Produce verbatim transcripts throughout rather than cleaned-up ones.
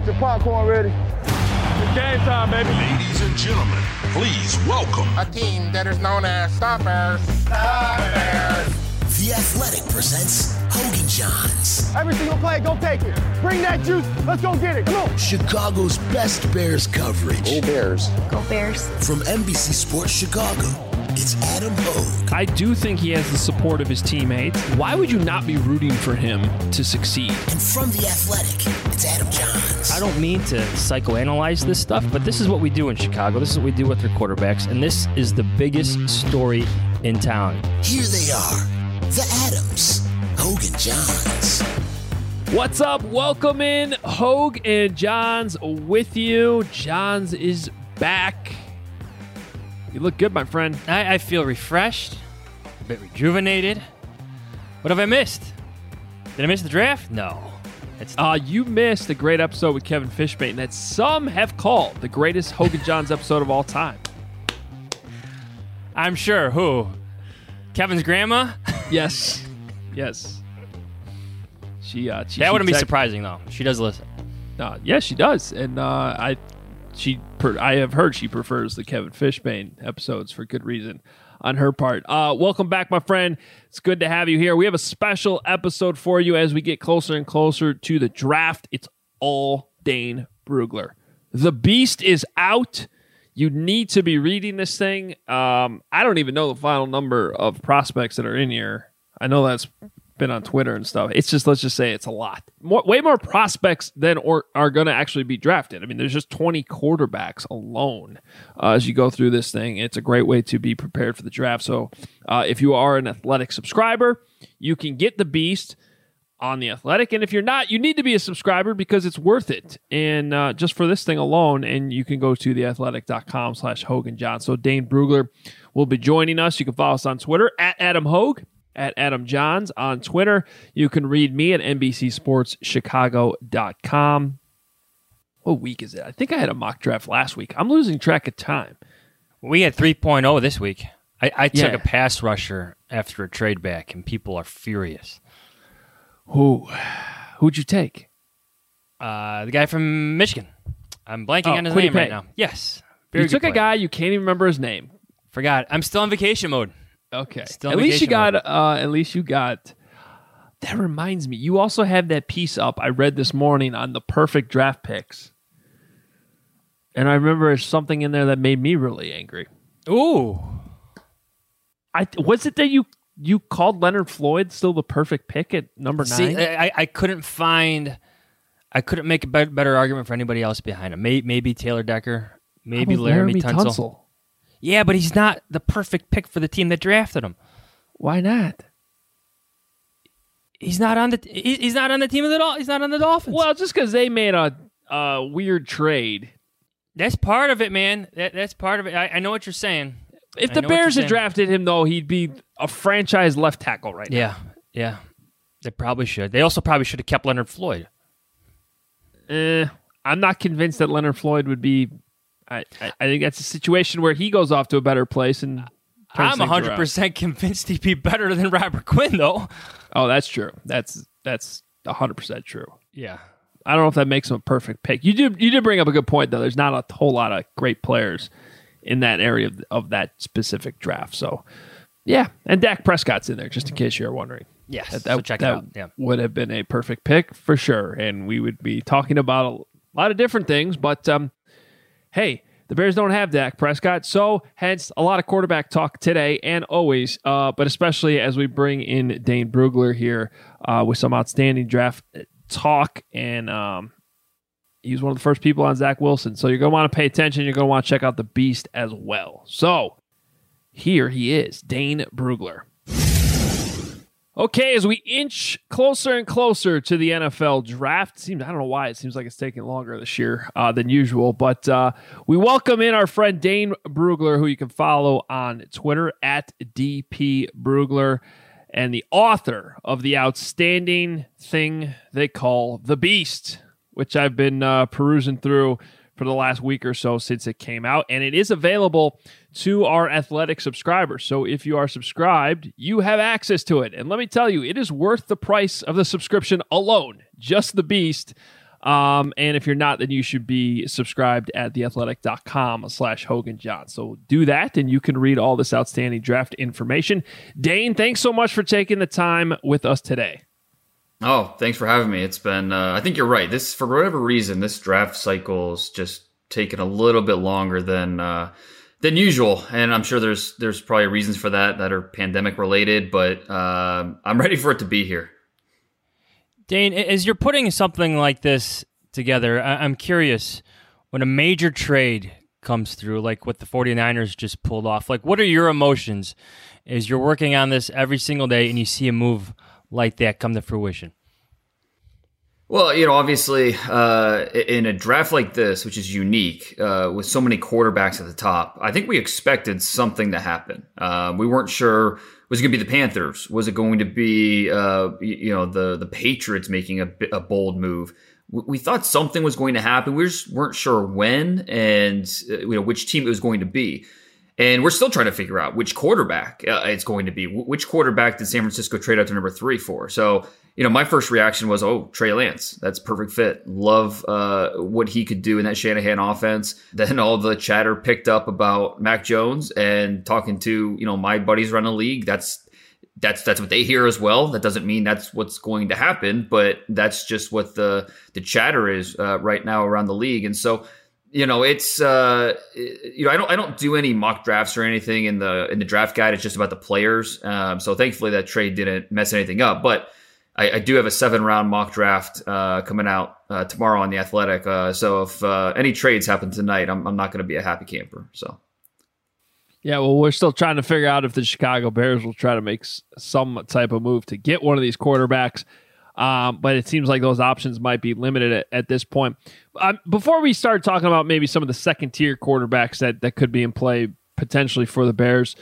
Get your popcorn ready. It's game time, baby. Ladies and gentlemen, please welcome a team that is known as Stoppers. Stoppers. The Athletic presents Hogan Johns. Every single play, go take it. Bring that juice. Let's go get it. Come on. Chicago's best Bears coverage. Go Bears. Go Bears. From N B C Sports Chicago, it's Adam Hogue. I do think he has the support of his teammates. Why would you not be rooting for him to succeed? And from The Athletic, it's Adam Johns. I don't mean to psychoanalyze this stuff, but this is what we do in Chicago. This is what we do with their quarterbacks, and this is the biggest story in town. Here they are, the Adams, Hogue and Johns. What's up? Welcome in. Hogue and Johns with you. Johns is back. You look good, my friend. I, I feel refreshed, a bit rejuvenated. What have I missed? Did I miss the draft? No. It's uh, you missed a great episode with Kevin Fishbane that some have called the greatest Hogue and Johns episode of all time. I'm sure. Who? Kevin's grandma? Yes. Yes. She. Uh, she that wouldn't she be tech- surprising, though. She does listen. Uh, yes, she does. And uh, I... She, per, I have heard she prefers the Kevin Fishbane episodes for good reason on her part. Uh, welcome back, my friend. It's good to have you here. We have a special episode for you as we get closer and closer to the draft. It's all Dane Brugler. The beast is out. You need to be reading this thing. Um, I don't even know the final number of prospects that are in here. I know that's been on Twitter and stuff. It's just, let's just say it's a lot. More, way more prospects than or are going to actually be drafted. I mean, there's just twenty quarterbacks alone uh, as you go through this thing. It's a great way to be prepared for the draft. So uh, if you are an Athletic subscriber, you can get the beast on the Athletic. And if you're not, you need to be a subscriber because it's worth it. And uh, just for this thing alone, and you can go to theathletic.com slash Hogan John. So Dane Brugler will be joining us. You can follow us on Twitter at Adam Hogue. At Adam Johns on Twitter. You can read me at N B C Sports Chicago dot com. What week is it? I think I had a mock draft last week. I'm losing track of time. We had three point oh this week. I, I took Yeah. a pass rusher after a trade back, and people are furious. Who? Who'd you take? Uh, the guy from Michigan. I'm blanking Oh, on his Kwity name Paye. right now. Yes. Very You good took a player. guy you can't even remember his name. Forgot. I'm still on vacation mode. Okay. Still at on least you vacation got. Uh, at least you got. That reminds me. You also have that piece up I read this morning on the perfect draft picks, and I remember there's something in there that made me really angry. Ooh. I was it that you you called Leonard Floyd still the perfect pick at number See, nine? I, I couldn't find, I couldn't make a better, better argument for anybody else behind him. Maybe, maybe Taylor Decker, maybe How about Laramie, Laramie Tunsil. Tunsil? Yeah, but he's not the perfect pick for the team that drafted him. Why not? He's not on the. he- He's not on the team of the. Dol- He's not on the Dolphins. Well, just because they made a, a weird trade. That's part of it, man. That, that's part of it. I, I know what you're saying. If I the know what Bears you're had saying. drafted him, though, he'd be a franchise left tackle right now. Yeah, yeah. They probably should. They also probably should have kept Leonard Floyd. Eh, I'm not convinced that Leonard Floyd would be. I, I, I think that's a situation where he goes off to a better place and. turns I'm things one hundred around. percent convinced he'd be better than Robert Quinn, though. Oh, that's true. That's that's one hundred percent true. Yeah. I don't know if that makes him a perfect pick. You did you did bring up a good point though. There's not a whole lot of great players in that area of, of that specific draft. So, yeah, and Dak Prescott's in there just in case you're wondering. Yes. That, so that, check that it out. Yeah. would have been a perfect pick for sure, and we would be talking about a lot of different things. But um, hey, the Bears don't have Dak Prescott, so hence a lot of quarterback talk today and always, uh, but especially as we bring in Dane Brugler here uh, with some outstanding draft talk, and um, he was one of the first people on Zach Wilson. So you're going to want to pay attention. You're going to want to check out the Beast as well. So here he is, Dane Brugler. Okay, as we inch closer and closer to the N F L draft, seems I don't know why it seems like it's taking longer this year uh, than usual, but uh, we welcome in our friend Dane Brugler, who you can follow on Twitter at D P Brugler, and the author of the outstanding thing they call The Beast, which I've been uh, perusing through for the last week or so since it came out, and it is available to our Athletic subscribers. So if you are subscribed, you have access to it. And let me tell you, it is worth the price of the subscription alone. Just The Beast. Um, and if you're not, then you should be subscribed at theathletic.com slash Hogan John. So do that, and you can read all this outstanding draft information. Dane, thanks so much for taking the time with us today. Oh, thanks for having me. It's been, uh, I think you're right. This, for whatever reason, this draft cycle's just taken a little bit longer than uh, than usual, and I'm sure there's there's probably reasons for that that are pandemic related. But uh, I'm ready for it to be here. Dane, as you're putting something like this together, I- I'm curious, when a major trade comes through, like what the 49ers just pulled off, like what are your emotions as you're working on this every single day and you see a move like that come to fruition? Well, you know, obviously, uh, in a draft like this, which is unique, uh, with so many quarterbacks at the top, I think we expected something to happen. Uh, we weren't sure, was it going to be the Panthers? Was it going to be, uh, you know, the the Patriots making a, a bold move? We, we thought something was going to happen. We just weren't sure when and uh, you know which team it was going to be. And we're still trying to figure out which quarterback uh, it's going to be. Which quarterback did San Francisco trade out to number three for? So, you know, my first reaction was, oh, Trey Lance. That's a perfect fit. Love uh, what he could do in that Shanahan offense. Then all the chatter picked up about Mac Jones, and talking to, you know, my buddies around the league. That's that's that's what they hear as well. That doesn't mean that's what's going to happen, but that's just what the the chatter is uh, right now around the league. And so, you know, it's uh, you know, I don't I don't do any mock drafts or anything in the in the draft guide. It's just about the players. Um, so thankfully that trade didn't mess anything up. But I, I do have a seven round mock draft uh, coming out uh, tomorrow on The Athletic. Uh, so if uh, any trades happen tonight, I'm I'm not going to be a happy camper. So. Yeah, well, we're still trying to figure out if the Chicago Bears will try to make s- some type of move to get one of these quarterbacks. Um, but it seems like those options might be limited at, at this point. Um, before we start talking about maybe some of the second-tier quarterbacks that, that could be in play potentially for the Bears,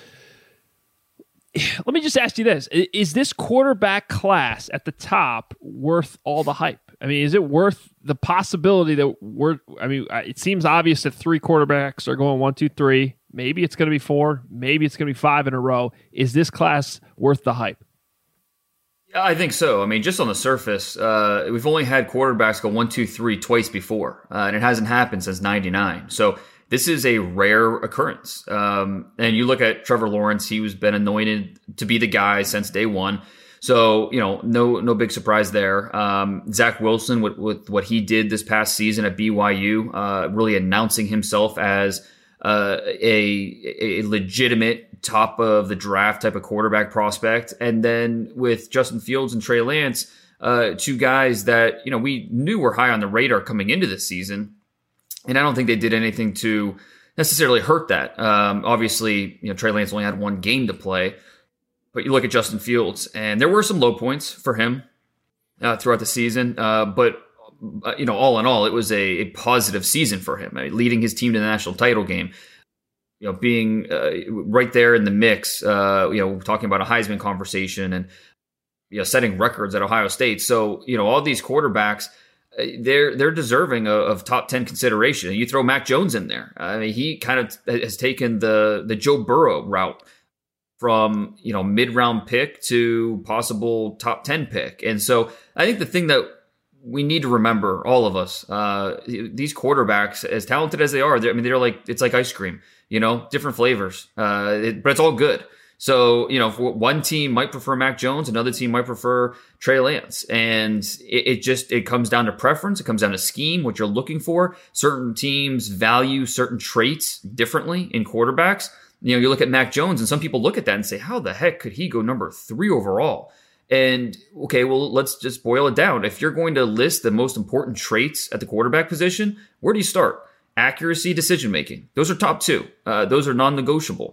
let me just ask you this. Is this quarterback class at the top worth all the hype? I mean, is it worth the possibility that we're – I mean, it seems obvious that three quarterbacks are going one, two, three. Maybe it's going to be four. Maybe it's going to be five in a row. Is this class worth the hype? Yeah, I think so. I mean, just on the surface, uh, we've only had quarterbacks go one, two, three twice before, uh, and it hasn't happened since ninety-nine. So this is a rare occurrence. Um, and you look at Trevor Lawrence; he was been anointed to be the guy since day one. So, you know, no no big surprise there. Um, Zach Wilson, with, with what he did this past season at B Y U, uh, really announcing himself as uh, a, a legitimate top of the draft type of quarterback prospect. And then with Justin Fields and Trey Lance, uh, two guys that, you know, we knew were high on the radar coming into this season. And I don't think they did anything to necessarily hurt that. Um, obviously, you know, Trey Lance only had one game to play. But you look at Justin Fields, and there were some low points for him uh, throughout the season. Uh, but, uh, you know, all in all, it was a, a positive season for him, I mean, leading his team to the national title game, you know, being uh, right there in the mix, uh, you know, talking about a Heisman conversation and, you know, setting records at Ohio State. So, you know, all these quarterbacks, uh, they're they're deserving of, of top ten consideration. You throw Mac Jones in there. I mean, he kind of has taken the the Joe Burrow route, from, you know, mid-round pick to possible top ten pick. And so I think the thing that we need to remember, all of us, uh, these quarterbacks, as talented as they are, I mean, they're like, it's like ice cream, you know, different flavors, uh, it, but it's all good. So, you know, one team might prefer Mac Jones, another team might prefer Trey Lance. And it, it just, it comes down to preference. It comes down to scheme, what you're looking for. Certain teams value certain traits differently in quarterbacks. You know, you look at Mac Jones, and some people look at that and say, how the heck could he go number three overall? And, okay, well, let's just boil it down. If you're going to list the most important traits at the quarterback position, where do you start? Accuracy, decision-making. Those are top two. Uh, those are non-negotiable.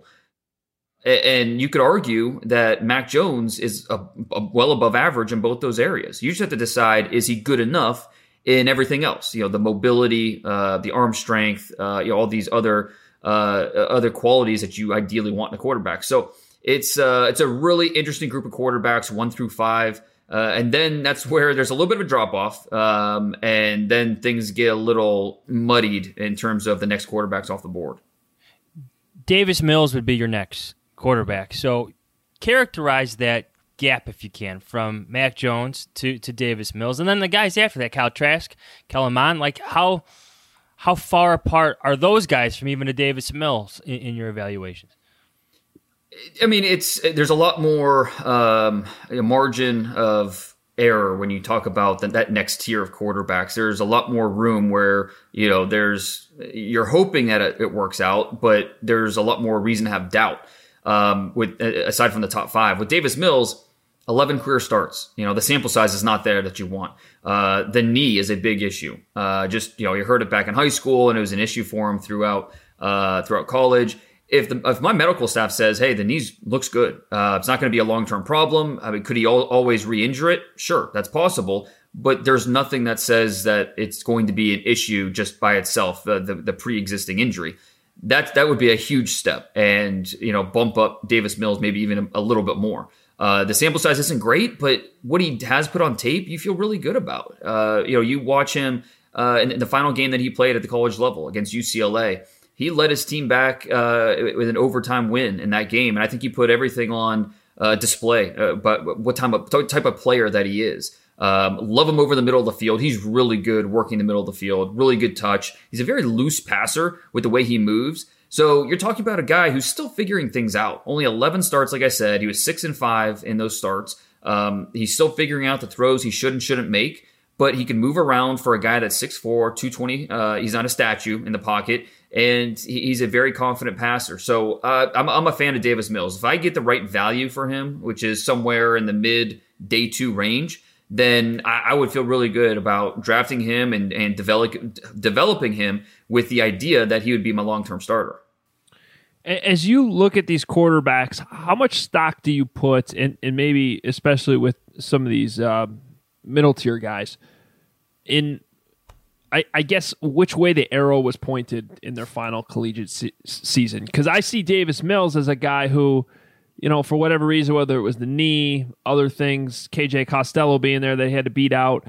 And you could argue that Mac Jones is a, a well above average in both those areas. You just have to decide, is he good enough in everything else? You know, the mobility, uh, the arm strength, uh, you know, all these other Uh, other qualities that you ideally want in a quarterback. So it's uh, it's a really interesting group of quarterbacks, one through five. Uh, and then that's where there's a little bit of a drop off. Um, and then things get a little muddied in terms of the next quarterbacks off the board. Davis Mills would be your next quarterback. So characterize that gap, if you can, from Mac Jones to, to Davis Mills, and then the guys after that, Kyle Trask, Kellen Mond. Like how how far apart are those guys from even a Davis Mills in, in your evaluations? I mean, it's there's a lot more um, a margin of error when you talk about the, that next tier of quarterbacks. There's a lot more room where, you know, there's you're hoping that it, it works out, but there's a lot more reason to have doubt. Um, with aside from the top five, with Davis Mills, eleven career starts. You know, the sample size is not there that you want. Uh, the knee is a big issue. Uh, just, you know, you heard it back in high school, and it was an issue for him throughout uh, throughout college. If the if my medical staff says, hey, the knee looks good, uh, it's not going to be a long term problem. I mean, could he al- always re-injure it? Sure, that's possible. But there's nothing that says that it's going to be an issue just by itself, the the, the pre-existing injury. That that would be a huge step, and you know, bump up Davis Mills maybe even a, a little bit more. Uh, the sample size isn't great, but what he has put on tape, you feel really good about. Uh, you know, you watch him uh, in the final game that he played at the college level against U C L A. He led his team back uh, with an overtime win in that game, and I think he put everything on uh, display. Uh, but what type of type of player that he is. Um, love him over the middle of the field. He's really good working the middle of the field. Really good touch. He's a very loose passer with the way he moves. So you're talking about a guy who's still figuring things out. Only eleven starts, like I said. He was six and five in those starts. Um, he's still figuring out the throws he should and shouldn't make, but he can move around for a guy that's six four, two twenty. Uh, he's not a statue in the pocket, and he's a very confident passer. So uh, I'm, I'm a fan of Davis Mills. If I get the right value for him, which is somewhere in the mid day two range, then I, I would feel really good about drafting him and, and develop, developing him with the idea that he would be my long-term starter. As you look at these quarterbacks, how much stock do you put, and and maybe especially with some of these uh, middle tier guys, in I, I guess which way the arrow was pointed in their final collegiate se- season? Because I see Davis Mills as a guy who, you know, for whatever reason, whether it was the knee, other things, K J Costello being there that he had to beat out,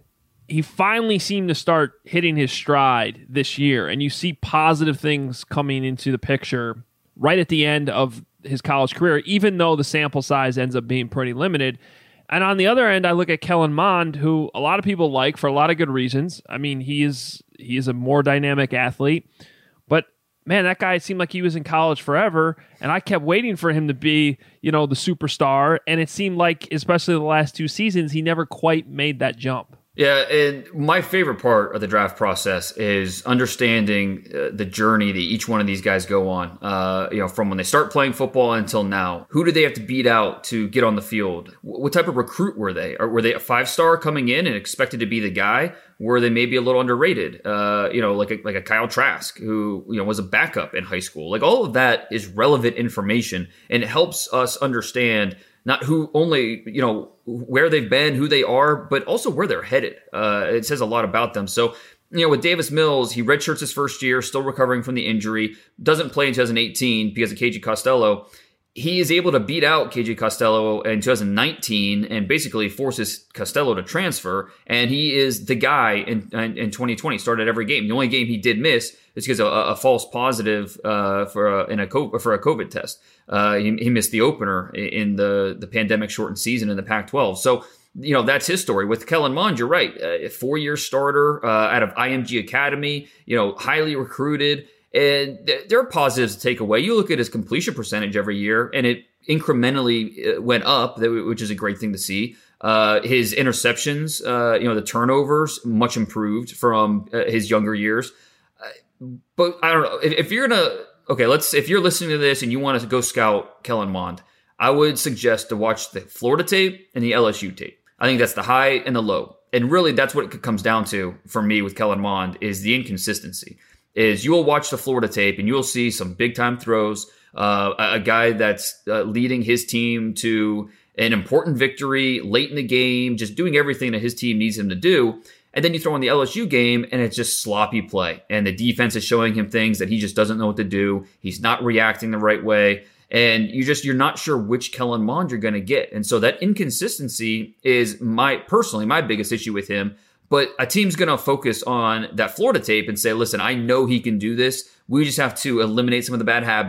he finally seemed to start hitting his stride this year, and you see positive things coming into the picture right at the end of his college career, even though the sample size ends up being pretty limited. And on the other end, I look at Kellen Mond, who a lot of people like for a lot of good reasons. I mean, he is he is a more dynamic athlete, but man, that guy seemed like he was in college forever, and I kept waiting for him to be, you know, the superstar, and it seemed like, especially the last two seasons, he never quite made that jump. Yeah, and my favorite part of the draft process is understanding uh, the journey that each one of these guys go on. Uh, you know, from when they start playing football until now. Who did they have to beat out to get on the field? What type of recruit were they? Or were they a five-star coming in and expected to be the guy? Were they maybe a little underrated? Uh, you know, like a, like a Kyle Trask, who you know was a backup in high school. Like all of that is relevant information, and it helps us understand not who only, you know, where they've been, who they are, but also where they're headed. Uh, it says a lot about them. So, you know, with Davis Mills, he redshirts his first year, still recovering from the injury, doesn't play in two thousand eighteen because of K J Costello. He is able to beat out K J Costello in two thousand nineteen and basically forces Costello to transfer. And he is the guy in, in, in twenty twenty, started every game. The only game he did miss is because of a, a false positive uh, for a, in a for a COVID test. Uh, he, he missed the opener in the, the pandemic shortened season in the Pac twelve. So, you know, that's his story. With Kellen Mond, you're right. A four-year starter uh, out of I M G Academy, you know, highly recruited. And th- there are positives to take away. You look at his completion percentage every year, and it incrementally went up, which is a great thing to see. Uh, his interceptions, uh, you know, the turnovers, much improved from uh, his younger years. Uh, but I don't know. If, if you're going to... Okay, let's. If you're listening to this and you want to go scout Kellen Mond, I would suggest to watch the Florida tape and the L S U tape. I think that's the high and the low. And really, that's what it comes down to for me with Kellen Mond is the inconsistency. Is you will watch the Florida tape and you will see some big-time throws, uh, a, a guy that's uh, leading his team to an important victory late in the game, just doing everything that his team needs him to do. And then you throw in the L S U game, and it's just sloppy play. And the defense is showing him things that he just doesn't know what to do. He's not reacting the right way. And you just, you're not sure which Kellen Mond you're going to get. And so that inconsistency is my, personally, my biggest issue with him. But a team's going to focus on that Florida tape and say, listen, I know he can do this. We just have to eliminate some of the bad habits,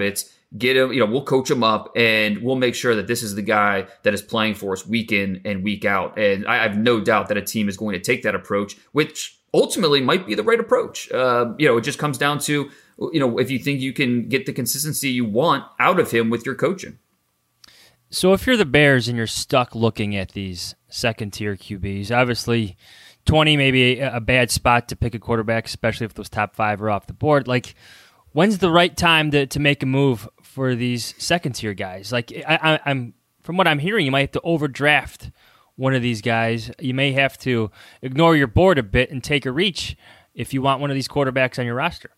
get him, you know, we'll coach him up and we'll make sure that this is the guy that is playing for us week in and week out. And I have no doubt that a team is going to take that approach, which ultimately might be the right approach. Uh, you know, it just comes down to, you know, if you think you can get the consistency you want out of him with your coaching. So if you're the Bears and you're stuck looking at these second-tier Q Bs, obviously twenty may be a bad spot to pick a quarterback, especially if those top five are off the board. Like, when's the right time to, to make a move for these second-tier guys? Like, I, I, I'm from what I'm hearing, you might have to overdraft one of these guys. You may have to ignore your board a bit and take a reach if you want one of these quarterbacks on your roster.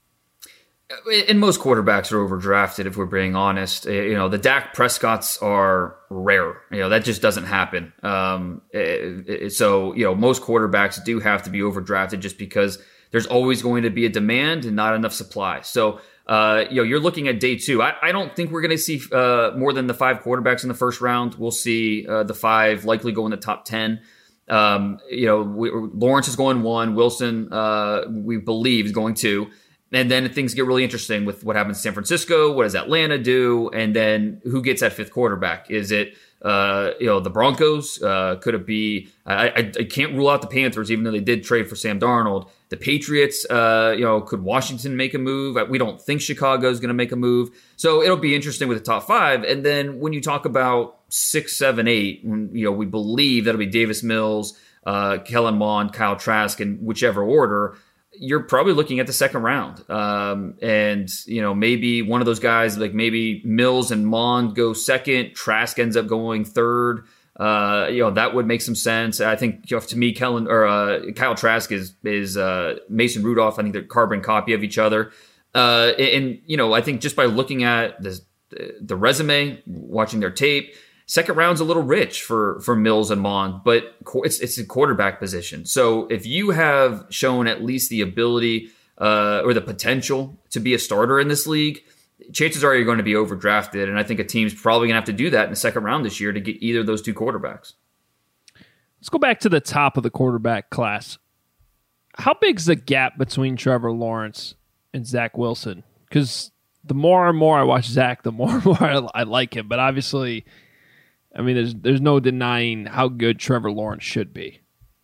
And most quarterbacks are overdrafted, if we're being honest. You know, the Dak Prescotts are rare. You know, that just doesn't happen. Um, it, it, so, you know, most quarterbacks do have to be overdrafted just because there's always going to be a demand and not enough supply. So, uh, you know, you're looking at day two. I, I don't think we're going to see uh, more than the five quarterbacks in the first round. We'll see uh, the five likely go in the top ten. Um, you know, we, Lawrence is going one. Wilson, uh, we believe, is going two. And then things get really interesting with what happens in San Francisco. What does Atlanta do? And then who gets that fifth quarterback? Is it, uh, you know, the Broncos? Uh, could it be, I, I, I can't rule out the Panthers, even though they did trade for Sam Darnold. The Patriots, uh, you know, could Washington make a move? We don't think Chicago is going to make a move. So it'll be interesting with the top five. And then when you talk about six, seven, eight, when, you know, we believe that'll be Davis Mills, uh, Kellen Mond, Kyle Trask, in whichever order. You're probably looking at the second round. Um, and, you know, maybe one of those guys, like maybe Mills and Mond go second, Trask ends up going third. Uh, you know, that would make some sense. I think, you know, to me, Kellen or uh, Kyle Trask is, is uh, Mason Rudolph. I think they're carbon copy of each other. Uh, and, you know, I think just by looking at the, the resume, watching their tape, second round's a little rich for, for Mills and Mond, but it's it's a quarterback position. So if you have shown at least the ability uh, or the potential to be a starter in this league, chances are you're going to be overdrafted. And I think a team's probably going to have to do that in the second round this year to get either of those two quarterbacks. Let's go back to the top of the quarterback class. How big's the gap between Trevor Lawrence and Zach Wilson? Because the more and more I watch Zach, the more and more I, I like him. But obviously, I mean, there's there's no denying how good Trevor Lawrence should be.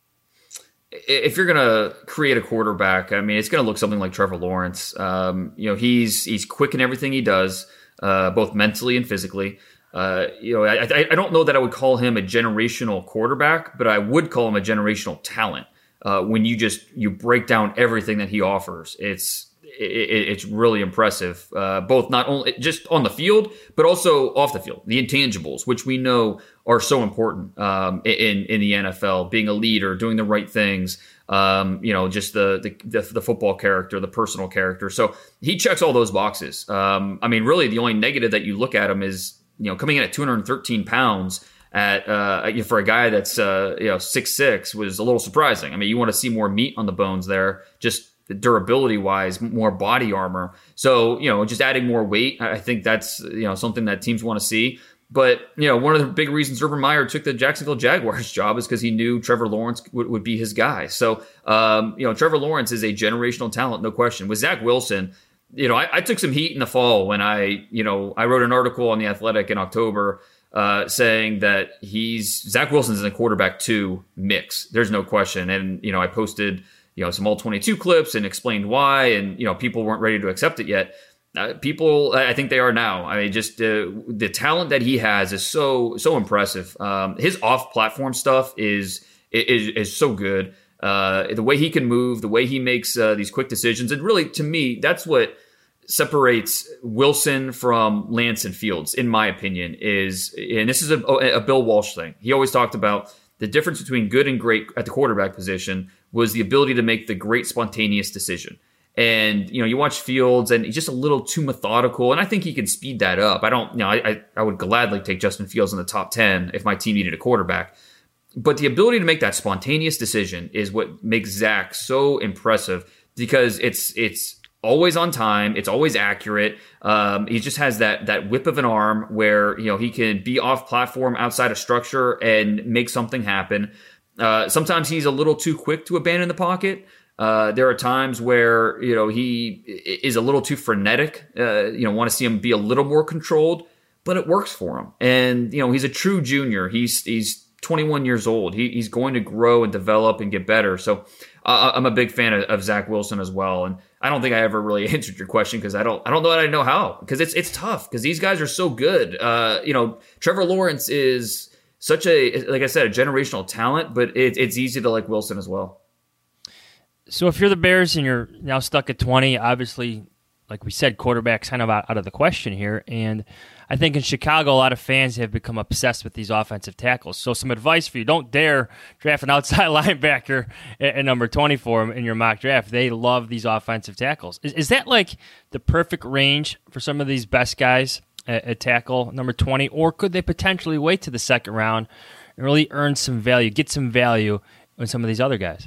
If you're going to create a quarterback, I mean, it's going to look something like Trevor Lawrence. Um, you know, he's he's quick in everything he does, uh, both mentally and physically. Uh, you know, I, I, I don't know that I would call him a generational quarterback, but I would call him a generational talent. Uh, when you just you break down everything that he offers, it's it, it's really impressive. Uh, both not only just on the field, but also off the field, the intangibles, which we know are so important um, in in the N F L. Being a leader, doing the right things, um, you know, just the, the the football character, the personal character. So he checks all those boxes. Um, I mean, really, the only negative that you look at him is, you know, coming in at two hundred thirteen pounds at uh, for a guy that's uh, you know six six was a little surprising. I mean, you want to see more meat on the bones there, just durability wise, more body armor. So, you know, just adding more weight, I think that's, you know, something that teams want to see. But, you know, one of the big reasons Urban Meyer took the Jacksonville Jaguars job is because he knew Trevor Lawrence would, would be his guy. So, um, you know, Trevor Lawrence is a generational talent, no question. With Zach Wilson, you know, I, I took some heat in the fall when I, you know, I wrote an article on The Athletic in October uh, saying that he's, Zach Wilson's in the quarterback two mix. There's no question. And, you know, I posted, you know, some all twenty-two clips and explained why, and, you know, people weren't ready to accept it yet. Uh, people, I think they are now. I mean, just uh, the talent that he has is so, so impressive. Um, his off-platform stuff is, is, is so good. Uh, the way he can move, the way he makes uh, these quick decisions. And really, to me, that's what separates Wilson from Lance and Fields, in my opinion, is, and this is a, a Bill Walsh thing. He always talked about the difference between good and great at the quarterback position was the ability to make the great spontaneous decision. And, you know, you watch Fields and he's just a little too methodical. And I think he can speed that up. I don't, you know, I, I would gladly take Justin Fields in the top ten if my team needed a quarterback. But the ability to make that spontaneous decision is what makes Zach so impressive, because it's, it's always on time. It's always accurate. Um, he just has that, that whip of an arm where, you know, he can be off platform outside of structure and make something happen. Uh, sometimes he's a little too quick to abandon the pocket. Uh, there are times where, you know, he is a little too frenetic. Uh, you know, want to see him be a little more controlled, but it works for him. And, you know, he's a true junior. He's he's twenty-one years old. He, he's going to grow and develop and get better. So uh, I'm a big fan of, of Zach Wilson as well. And I don't think I ever really answered your question because I don't I don't know that I know how, because it's it's tough because these guys are so good. Uh, you know, Trevor Lawrence is such a, like I said, a generational talent, but it, it's easy to like Wilson as well. So if you're the Bears and you're now stuck at twenty, obviously, like we said, quarterback's kind of out, out of the question here. And I think in Chicago, a lot of fans have become obsessed with these offensive tackles. So some advice for you: don't dare draft an outside linebacker at, at number twenty-four in your mock draft. They love these offensive tackles. Is, is that like the perfect range for some of these best guys at, at tackle, number twenty? Or could they potentially wait to the second round and really earn some value, get some value in some of these other guys?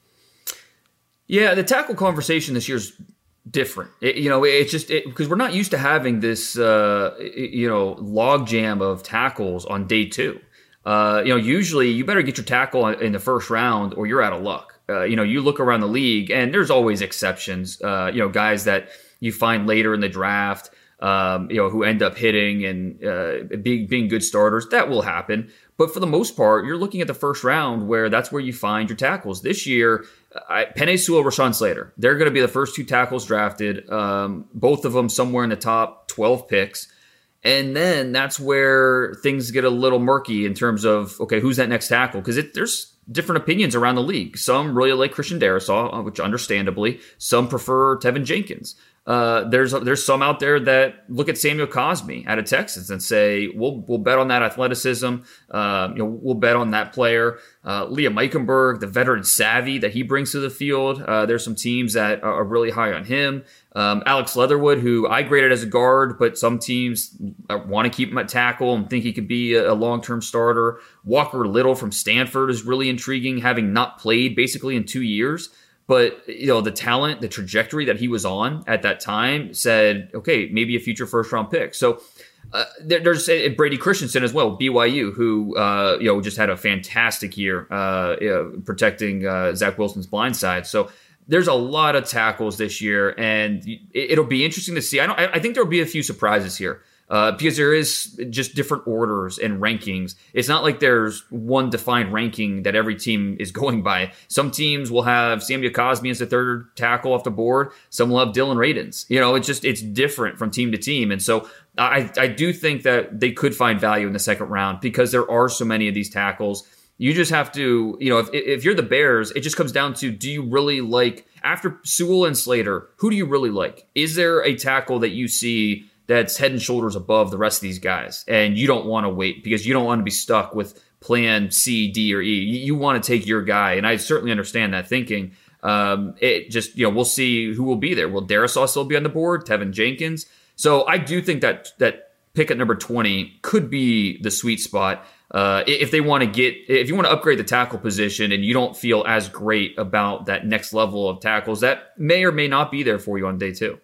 Yeah, the tackle conversation this year's different. It, you know, it's just because we're not used to having this, uh, you know, log jam of tackles on day two. Uh, you know, usually you better get your tackle in the first round or you're out of luck. Uh, you know, you look around the league and there's always exceptions. Uh, you know, guys that you find later in the draft, um, you know, who end up hitting and uh, being being good starters. That will happen. But for the most part, you're looking at the first round where that's where you find your tackles. This year, I, Penei Sewell, Rashawn Slater, they're going to be the first two tackles drafted, um, both of them somewhere in the top twelve picks. And then that's where things get a little murky in terms of, okay, who's that next tackle? Because there's different opinions around the league. Some really like Christian Darrisaw, which understandably, some prefer Tevin Jenkins. Uh, there's there's some out there that look at Samuel Cosmi out of Texas and say, we'll we'll bet on that athleticism. Uh, you know, we'll bet on that player. Uh, Liam Eichenberg, the veteran savvy that he brings to the field. Uh, there's some teams that are really high on him. Um, Alex Leatherwood, who I graded as a guard, but some teams want to keep him at tackle and think he could be a, a long-term starter. Walker Little from Stanford is really intriguing, having not played basically in two years. But, you know, the talent, the trajectory that he was on at that time said, okay, maybe a future first-round pick. So uh, there, there's uh, Brady Christensen as well, B Y U, who, uh, you know, just had a fantastic year uh, you know, protecting uh, Zach Wilson's blind side. So there's a lot of tackles this year, and it, it'll be interesting to see. I don't. I think there'll be a few surprises here. Uh, because there is just different orders and rankings. It's not like there's one defined ranking that every team is going by. Some teams will have Samuel Cosmi as the third tackle off the board. Some will have Dylan Radins. You know, it's just, it's different from team to team. And so I, I do think that they could find value in the second round because there are so many of these tackles. You just have to, you know, if, if you're the Bears, it just comes down to, do you really like, after Sewell and Slater, who do you really like? Is there a tackle that you see that's head and shoulders above the rest of these guys, and you don't want to wait because you don't want to be stuck with plan C, D, or E. You want to take your guy, and I certainly understand that thinking. Um, it just, you know, we'll see who will be there. Will Darrisaw still be on the board? Tevin Jenkins? So I do think that that pick at number twenty could be the sweet spot. Uh, if they want to get, if you want to upgrade the tackle position and you don't feel as great about that next level of tackles, that may or may not be there for you on day two.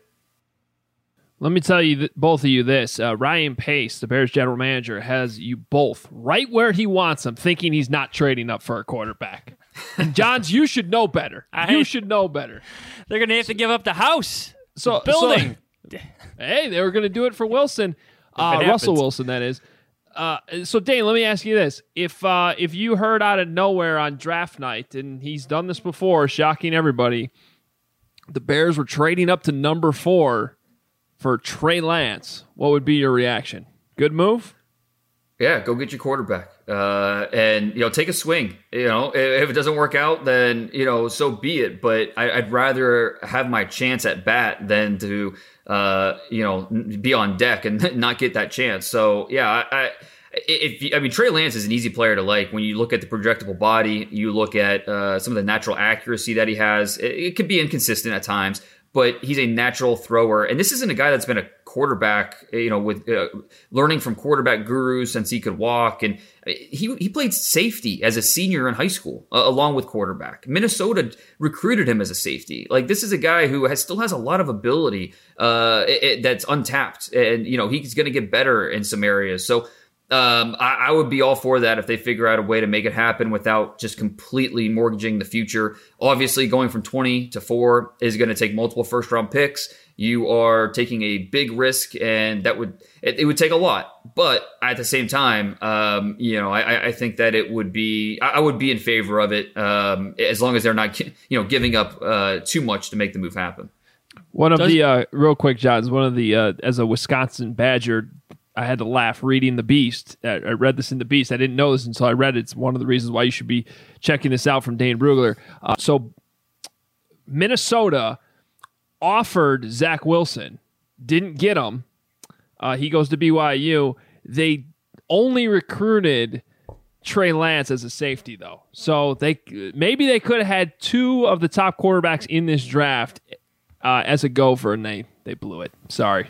Let me tell you, th- both of you this. Uh, Ryan Pace, the Bears general manager, has you both right where he wants them, thinking he's not trading up for a quarterback. And Johns, you should know better. I, you should know better. They're going to have to give up the house, so, the building. So, hey, they were going to do it for Wilson. Uh, Russell Wilson, that is. Uh, so, Dane, let me ask you this. If uh, if you heard out of nowhere on draft night, and he's done this before, shocking everybody, the Bears were trading up to number four for Trey Lance, what would be your reaction? Good move? Yeah, go get your quarterback. Uh, and, you know, take a swing. You know, if it doesn't work out, then, you know, so be it. But I, I'd rather have my chance at bat than to, uh, you know, be on deck and not get that chance. So, yeah, I, I If I mean, Trey Lance is an easy player to like. When you look at the projectable body, you look at uh, some of the natural accuracy that he has. It, it could be inconsistent at times, but he's a natural thrower. And this isn't a guy that's been a quarterback, you know, with uh, learning from quarterback gurus since he could walk. And he he played safety as a senior in high school, uh, along with quarterback. Minnesota recruited him as a safety. Like, this is a guy who has still has a lot of ability uh, it, it, that's untapped. And, you know, he's going to get better in some areas. So Um, I, I would be all for that if they figure out a way to make it happen without just completely mortgaging the future. Obviously, going from twenty to four is going to take multiple first round picks. You are taking a big risk, and that would it, it would take a lot. But at the same time, um, you know, I, I think that it would be I would be in favor of it um, as long as they're not you know giving up uh, too much to make the move happen. One of Does- the uh, real quick, Johns. One of the uh, as a Wisconsin Badger, I had to laugh reading The Beast. I I read this in The Beast. I didn't know this until I read it. It's one of the reasons why you should be checking this out from Dane Brugler. Uh, so Minnesota offered Zach Wilson, didn't get him. Uh, he goes to B Y U. They only recruited Trey Lance as a safety, though. So they maybe they could have had two of the top quarterbacks in this draft uh, as a gopher, and they, they blew it. Sorry.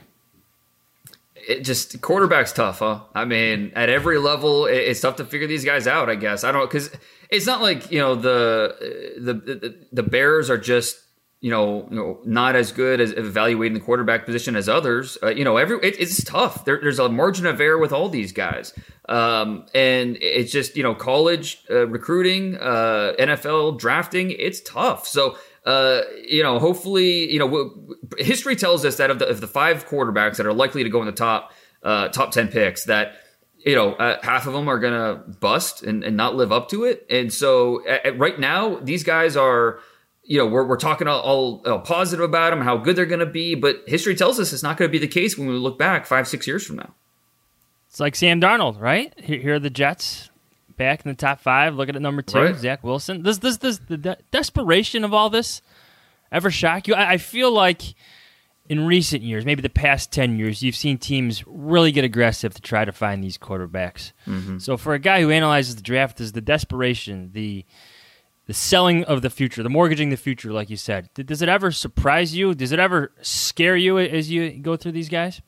It just quarterback's tough, huh? I mean, at every level, it, it's tough to figure these guys out. I guess I don't because it's not like you know the, the the the Bears are just you know you know not as good as evaluating the quarterback position as others. Uh, you know, every it, it's tough. There, there's a margin of error with all these guys, um, and it's just you know college uh, recruiting, uh, N F L drafting. It's tough. So. Uh, you know, hopefully, you know, w- w- history tells us that of the, of the five quarterbacks that are likely to go in the top uh, top ten picks, that you know uh, half of them are gonna bust and, and not live up to it. And so, uh, right now, these guys are, you know, we're we're talking all, all, all positive about them, how good they're gonna be, but history tells us it's not gonna be the case when we look back five, six years from now. It's like Sam Darnold, right? Here, here are the Jets. Back in the top five, looking at number two, Right. Zach Wilson. Does this, this, the de- desperation of all this ever shock you? I, I feel like in recent years, maybe the past ten years, you've seen teams really get aggressive to try to find these quarterbacks. Mm-hmm. So for a guy who analyzes the draft, is the desperation, the the selling of the future, the mortgaging the future, like you said, does it ever surprise you? Does it ever scare you as you go through these guys?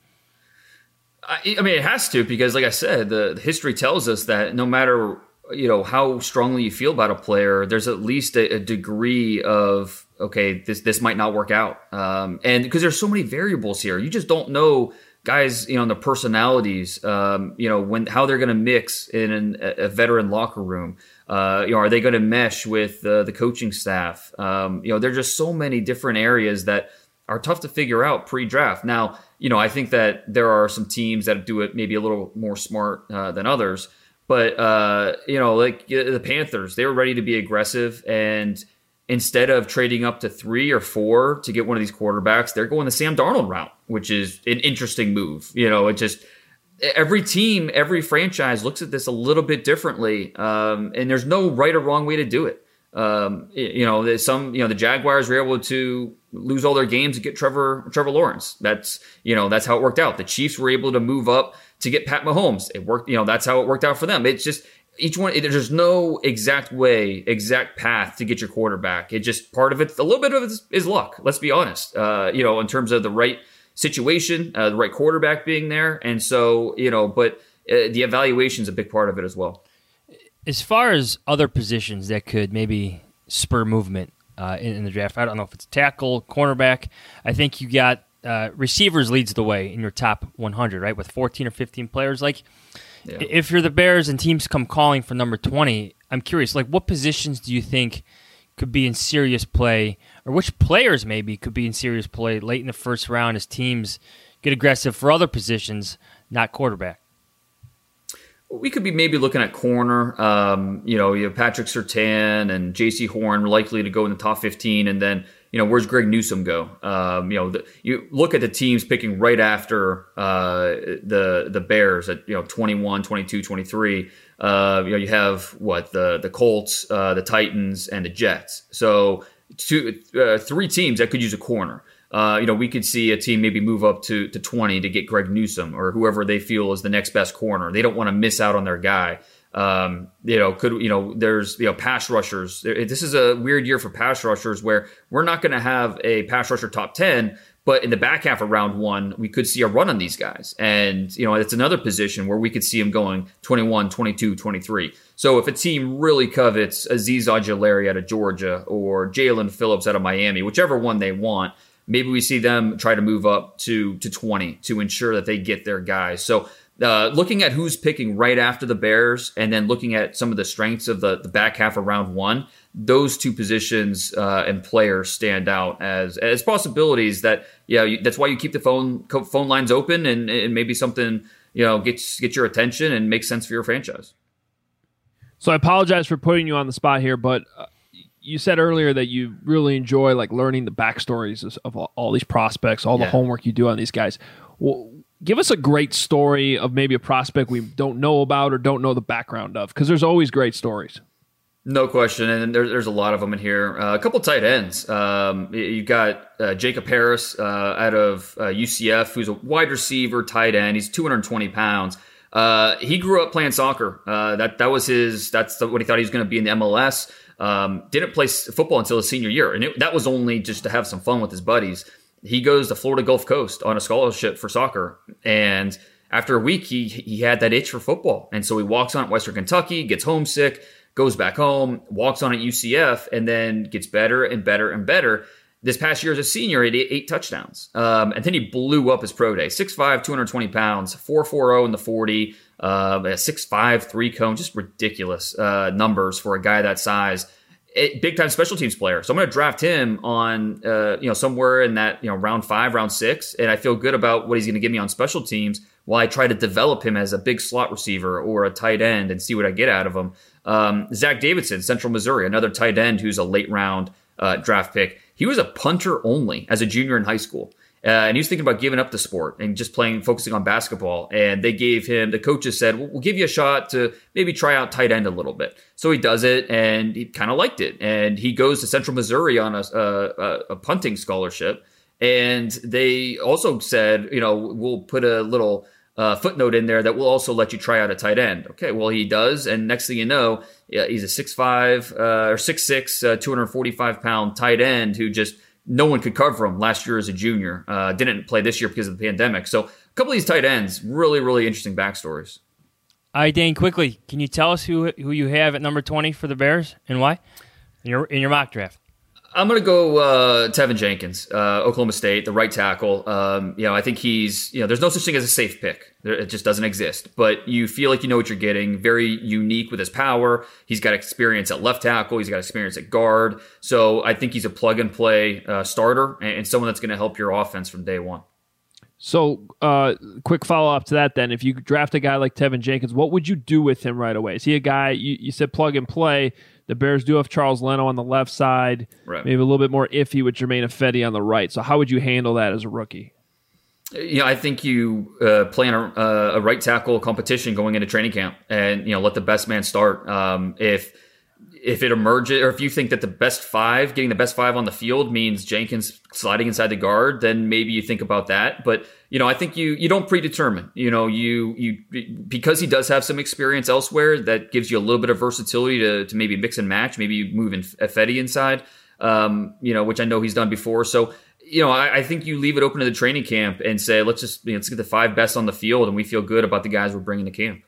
I, I mean, it has to, because like I said, the, the history tells us that no matter, you know, how strongly you feel about a player, there's at least a, a degree of, okay, this, this might not work out. Um, and because there's so many variables here, you just don't know guys, you know, the personalities, um, you know, when, how they're going to mix in an, a veteran locker room. Uh, you know, are they going to mesh with uh, the coaching staff? Um, you know, there's just so many different areas that are tough to figure out pre-draft. Now, you know, I think that there are some teams that do it maybe a little more smart uh, than others. But, uh, you know, like the Panthers, they were ready to be aggressive. And instead of trading up to three or four to get one of these quarterbacks, they're going the Sam Darnold route, which is an interesting move. You know, it just every team, every franchise looks at this a little bit differently. Um, and there's no right or wrong way to do it. Um, you know, some, you know, the Jaguars were able to lose all their games and get Trevor, Trevor Lawrence. That's, you know, that's how it worked out. The Chiefs were able to move up to get Pat Mahomes. It worked, you know, that's how it worked out for them. It's just each one, it, there's no exact way, exact path to get your quarterback. It just part of it, a little bit of it is, is luck. Let's be honest. Uh, you know, in terms of the right situation, uh, the right quarterback being there. And so, you know, but uh, the evaluation is a big part of it as well. As far as other positions that could maybe spur movement uh, in, in the draft, I don't know if it's tackle, cornerback. I think you got uh, receivers leads the way in your top one hundred, right, with fourteen or fifteen players. Like, yeah. If you're the Bears and teams come calling for number twenty, I'm curious, like, what positions do you think could be in serious play, or which players maybe could be in serious play late in the first round as teams get aggressive for other positions, not quarterback? We could be maybe looking at corner. Um, you know, you have Patrick Surtain and J C Horn likely to go in the top fifteen, and then you know where's Greg Newsome go? Um, you know, the, you look at the teams picking right after uh, the the Bears at you know twenty-one, twenty-two, twenty-three. Uh, you know, you have what the the Colts, uh, the Titans, and the Jets. So two, uh, three teams that could use a corner. Uh, you know, we could see a team maybe move up to, to twenty to get Greg Newsome or whoever they feel is the next best corner. They don't want to miss out on their guy. Um, you know, could, you know, there's, you know, pass rushers. This is a weird year for pass rushers where we're not going to have a pass rusher top ten, but in the back half of round one, we could see a run on these guys. And, you know, it's another position where we could see them going twenty-one, twenty-two, twenty-three. So if a team really covets Azeez Ojulari out of Georgia or Jalen Phillips out of Miami, whichever one they want, maybe we see them try to move up to, to twenty to ensure that they get their guys. So uh, looking at who's picking right after the Bears and then looking at some of the strengths of the, the back half of round one, those two positions uh, and players stand out as as possibilities that, yeah, you, that's why you keep the phone phone lines open and, and maybe something, you know, gets, gets your attention and makes sense for your franchise. So I apologize for putting you on the spot here, but uh, you said earlier that you really enjoy like learning the backstories of, of all, all these prospects, all yeah. the homework you do on these guys. Well, give us a great story of maybe a prospect we don't know about or don't know the background of, because there's always great stories. No question, and there, there's a lot of them in here. Uh, a couple tight ends. Um, you got uh, Jacob Harris uh, out of uh, U C F, who's a wide receiver, tight end. He's two hundred twenty pounds. Uh, he grew up playing soccer. Uh, that that was his. That's the, what he thought he was going to be in the M L S. Um, didn't play football until his senior year, and it, that was only just to have some fun with his buddies. He goes to Florida Gulf Coast on a scholarship for soccer, and after a week, he he had that itch for football, and so he walks on at Western Kentucky, gets homesick, goes back home, walks on at U C F, and then gets better and better and better. This past year as a senior, he had eight, eight touchdowns. Um, and then he blew up his pro day. six five, two hundred twenty pounds, four forty in the forty, uh, a six five, three cone, just ridiculous uh, numbers for a guy that size. It, big-time special teams player. So I'm going to draft him on, uh, you know, somewhere in that, you know, round five, round six, and I feel good about what he's going to give me on special teams while I try to develop him as a big slot receiver or a tight end and see what I get out of him. Um, Zach Davidson, Central Missouri, another tight end who's a late-round uh, draft pick. He was a punter only as a junior in high school. Uh, and he was thinking about giving up the sport and just playing, focusing on basketball. And they gave him, the coaches said, well, we'll give you a shot to maybe try out tight end a little bit. So he does it, and he kind of liked it. And he goes to Central Missouri on a, a, a punting scholarship. And they also said, you know, we'll put a little uh, footnote in there that will also let you try out a tight end. Okay, well, he does. And next thing you know, yeah, he's a six five uh, or six six, uh, two hundred forty-five pound tight end who just, no one could cover him last year as a junior. Uh, didn't play this year because of the pandemic. So a couple of these tight ends, really, really interesting backstories. All right, Dane, quickly, can you tell us who who you have at number twenty for the Bears and why in your in your mock draft? I'm going to go uh, Tevin Jenkins, uh, Oklahoma State, the right tackle. Um, you know, I think he's, you know, there's no such thing as a safe pick. It just doesn't exist. But you feel like you know what you're getting. Very unique with his power. He's got experience at left tackle. He's got experience at guard. So I think he's a plug-and-play uh, starter and, and someone that's going to help your offense from day one. So, uh, quick follow-up to that then. If you draft a guy like Tevin Jenkins, what would you do with him right away? Is he a guy, you, you said plug-and-play. The Bears do have Charles Leno on the left side, right. Maybe a little bit more iffy with Jermaine Ifedi on the right. So how would you handle that as a rookie? Yeah, I think you uh, plan a, a right tackle competition going into training camp, and you know let the best man start. Um, if if it emerges, or if you think that the best five, getting the best five on the field means Jenkins sliding inside the guard, then maybe you think about that. But you know, I think you you don't predetermine. You know, you you because he does have some experience elsewhere, that gives you a little bit of versatility to to maybe mix and match. Maybe you move in Ifedi inside, um, you know, which I know he's done before. So. You know, I, I think you leave it open to the training camp and say, let's just you know, let's get the five best on the field, and we feel good about the guys we're bringing to camp.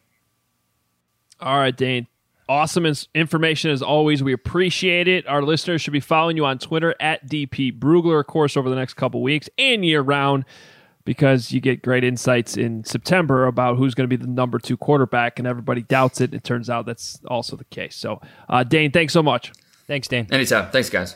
All right, Dane. Awesome information as always. We appreciate it. Our listeners should be following you on Twitter at D P Brugler, of course, over the next couple weeks and year round, because you get great insights in September about who's going to be the number two quarterback, and everybody doubts it. It turns out that's also the case. So, uh, Dane, thanks so much. Thanks, Dane. Anytime. Thanks, guys.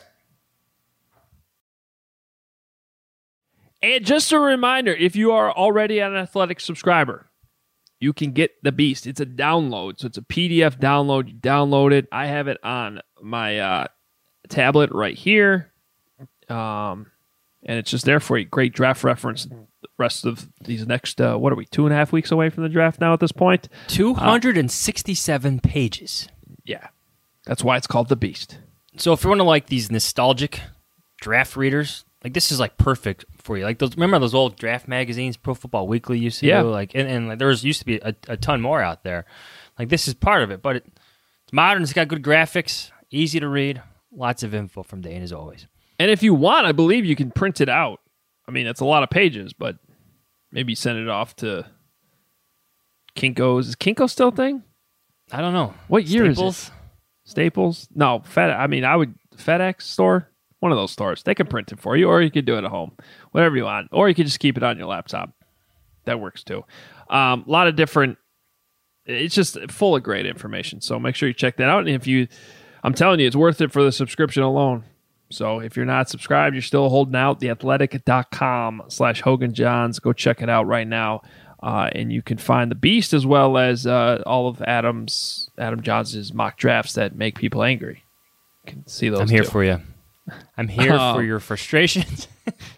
And just a reminder, if you are already an Athletic subscriber, you can get the Beast. It's a download, so it's a P D F download. You download it. I have it on my uh, tablet right here, um, and it's just there for you. Great draft reference. The rest of these next, uh, what are we, two and a half weeks away from the draft now at this point? two hundred sixty-seven uh, pages. Yeah, that's why it's called the Beast. So if you're one of like these nostalgic draft readers, like this is like perfect for you. Like those, remember those old draft magazines, Pro Football Weekly used to yeah. do? Like, and, and like, there was used to be a, a ton more out there. Like this is part of it, but it, it's modern. It's got good graphics, easy to read, lots of info from Dane as always. And if you want, I believe you can print it out. I mean, it's a lot of pages, but maybe send it off to Kinko's. Is Kinko still a thing? I don't know. What year Staples? is it? Staples? No, Fed. I mean, I would FedEx store. One of those stores. They can print it for you, or you can do it at home. Whatever you want. Or you can just keep it on your laptop. That works too. Um, a lot of different. It's just full of great information. So make sure you check that out. And if you, I'm telling you, it's worth it for the subscription alone. So if you're not subscribed, you're still holding out. theathletic.com slash Hogan Johns. Go check it out right now. Uh, and you can find the Beast as well as uh, all of Adam's Adam Johns' mock drafts that make people angry. You can see those. I'm here too. for you. I'm here Um, for your frustrations.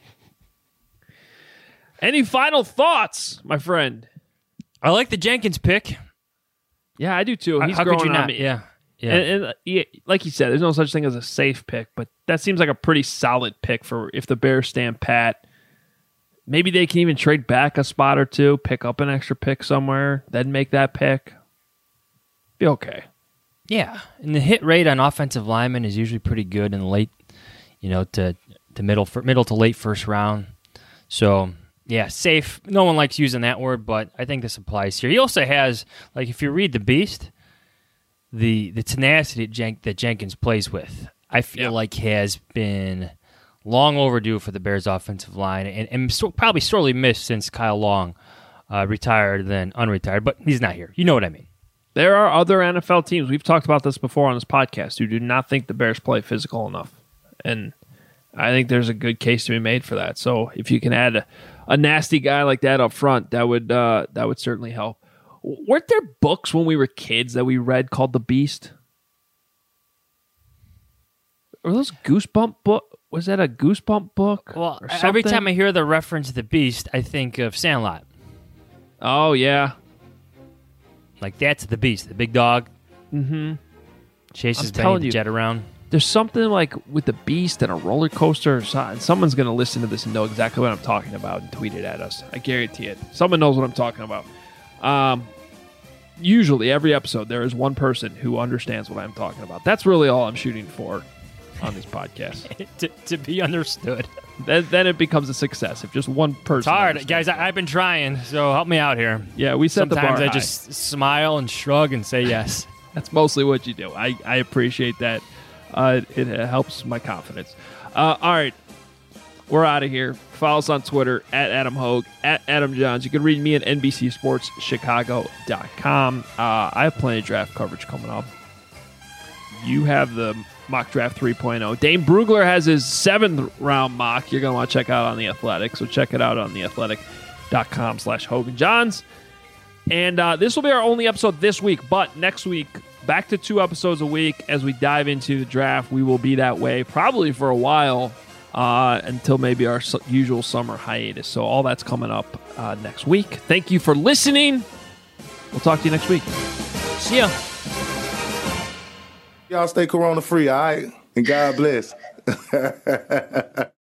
Any final thoughts, my friend? I like the Jenkins pick. Yeah, I do too. He's How growing could you on not? me. Yeah. Yeah. And, and uh, yeah, like you said, there's no such thing as a safe pick, but that seems like a pretty solid pick for if the Bears stand pat. Maybe they can even trade back a spot or two, pick up an extra pick somewhere, then make that pick. Be okay. Yeah, and the hit rate on offensive linemen is usually pretty good in the late, you know, to to middle middle to late first round. So yeah, safe. No one likes using that word, but I think this applies here. He also has, like, if you read the Beast, the the tenacity that, Jen- that Jenkins plays with, I feel Yeah. like has been long overdue for the Bears' offensive line, and, and so, probably sorely missed since Kyle Long uh, retired, then unretired. But he's not here. You know what I mean. There are other N F L teams, we've talked about this before on this podcast, who do not think the Bears play physical enough. And I think there's a good case to be made for that. So if you can add a, a nasty guy like that up front, that would uh, that would certainly help. Weren't there books when we were kids that we read called The Beast? Were those Goosebump book? Was that a Goosebump book? Well, or every something? time I hear the reference to the Beast, I think of Sandlot. Oh, yeah. Like, that's the Beast, the big dog. Mm-hmm. Chases I'm Benny telling the you. Jet around. There's something like with the Beast and a roller coaster or something. Someone's going to listen to this and know exactly what I'm talking about and tweet it at us. I guarantee it. Someone knows what I'm talking about. Um, usually, every episode, there is one person who understands what I'm talking about. That's really all I'm shooting for on these podcasts. to, to be understood. then, then it becomes a success if just one person. It's hard. understands Guys, it. I, I've been trying, so help me out here. Yeah, we set the bar Sometimes I high. just smile and shrug and say yes. That's mostly what you do. I, I appreciate that. Uh, it, it helps my confidence. Uh, all right. We're out of here. Follow us on Twitter at Adam Hogue, at Adam Johns. You can read me at N B C Sports Chicago dot com. Uh, I have plenty of draft coverage coming up. You have the mock draft three point oh. Dane Brugler has his seventh round mock. You're going to want to check out on The Athletic. So check it out on theathletic.com slash Hogan Johns. And uh, this will be our only episode this week, but next week, back to two episodes a week as we dive into the draft. We will be that way probably for a while uh, until maybe our su- usual summer hiatus. So all that's coming up uh, next week. Thank you for listening. We'll talk to you next week. See ya. Y'all stay corona free, all right? And God bless.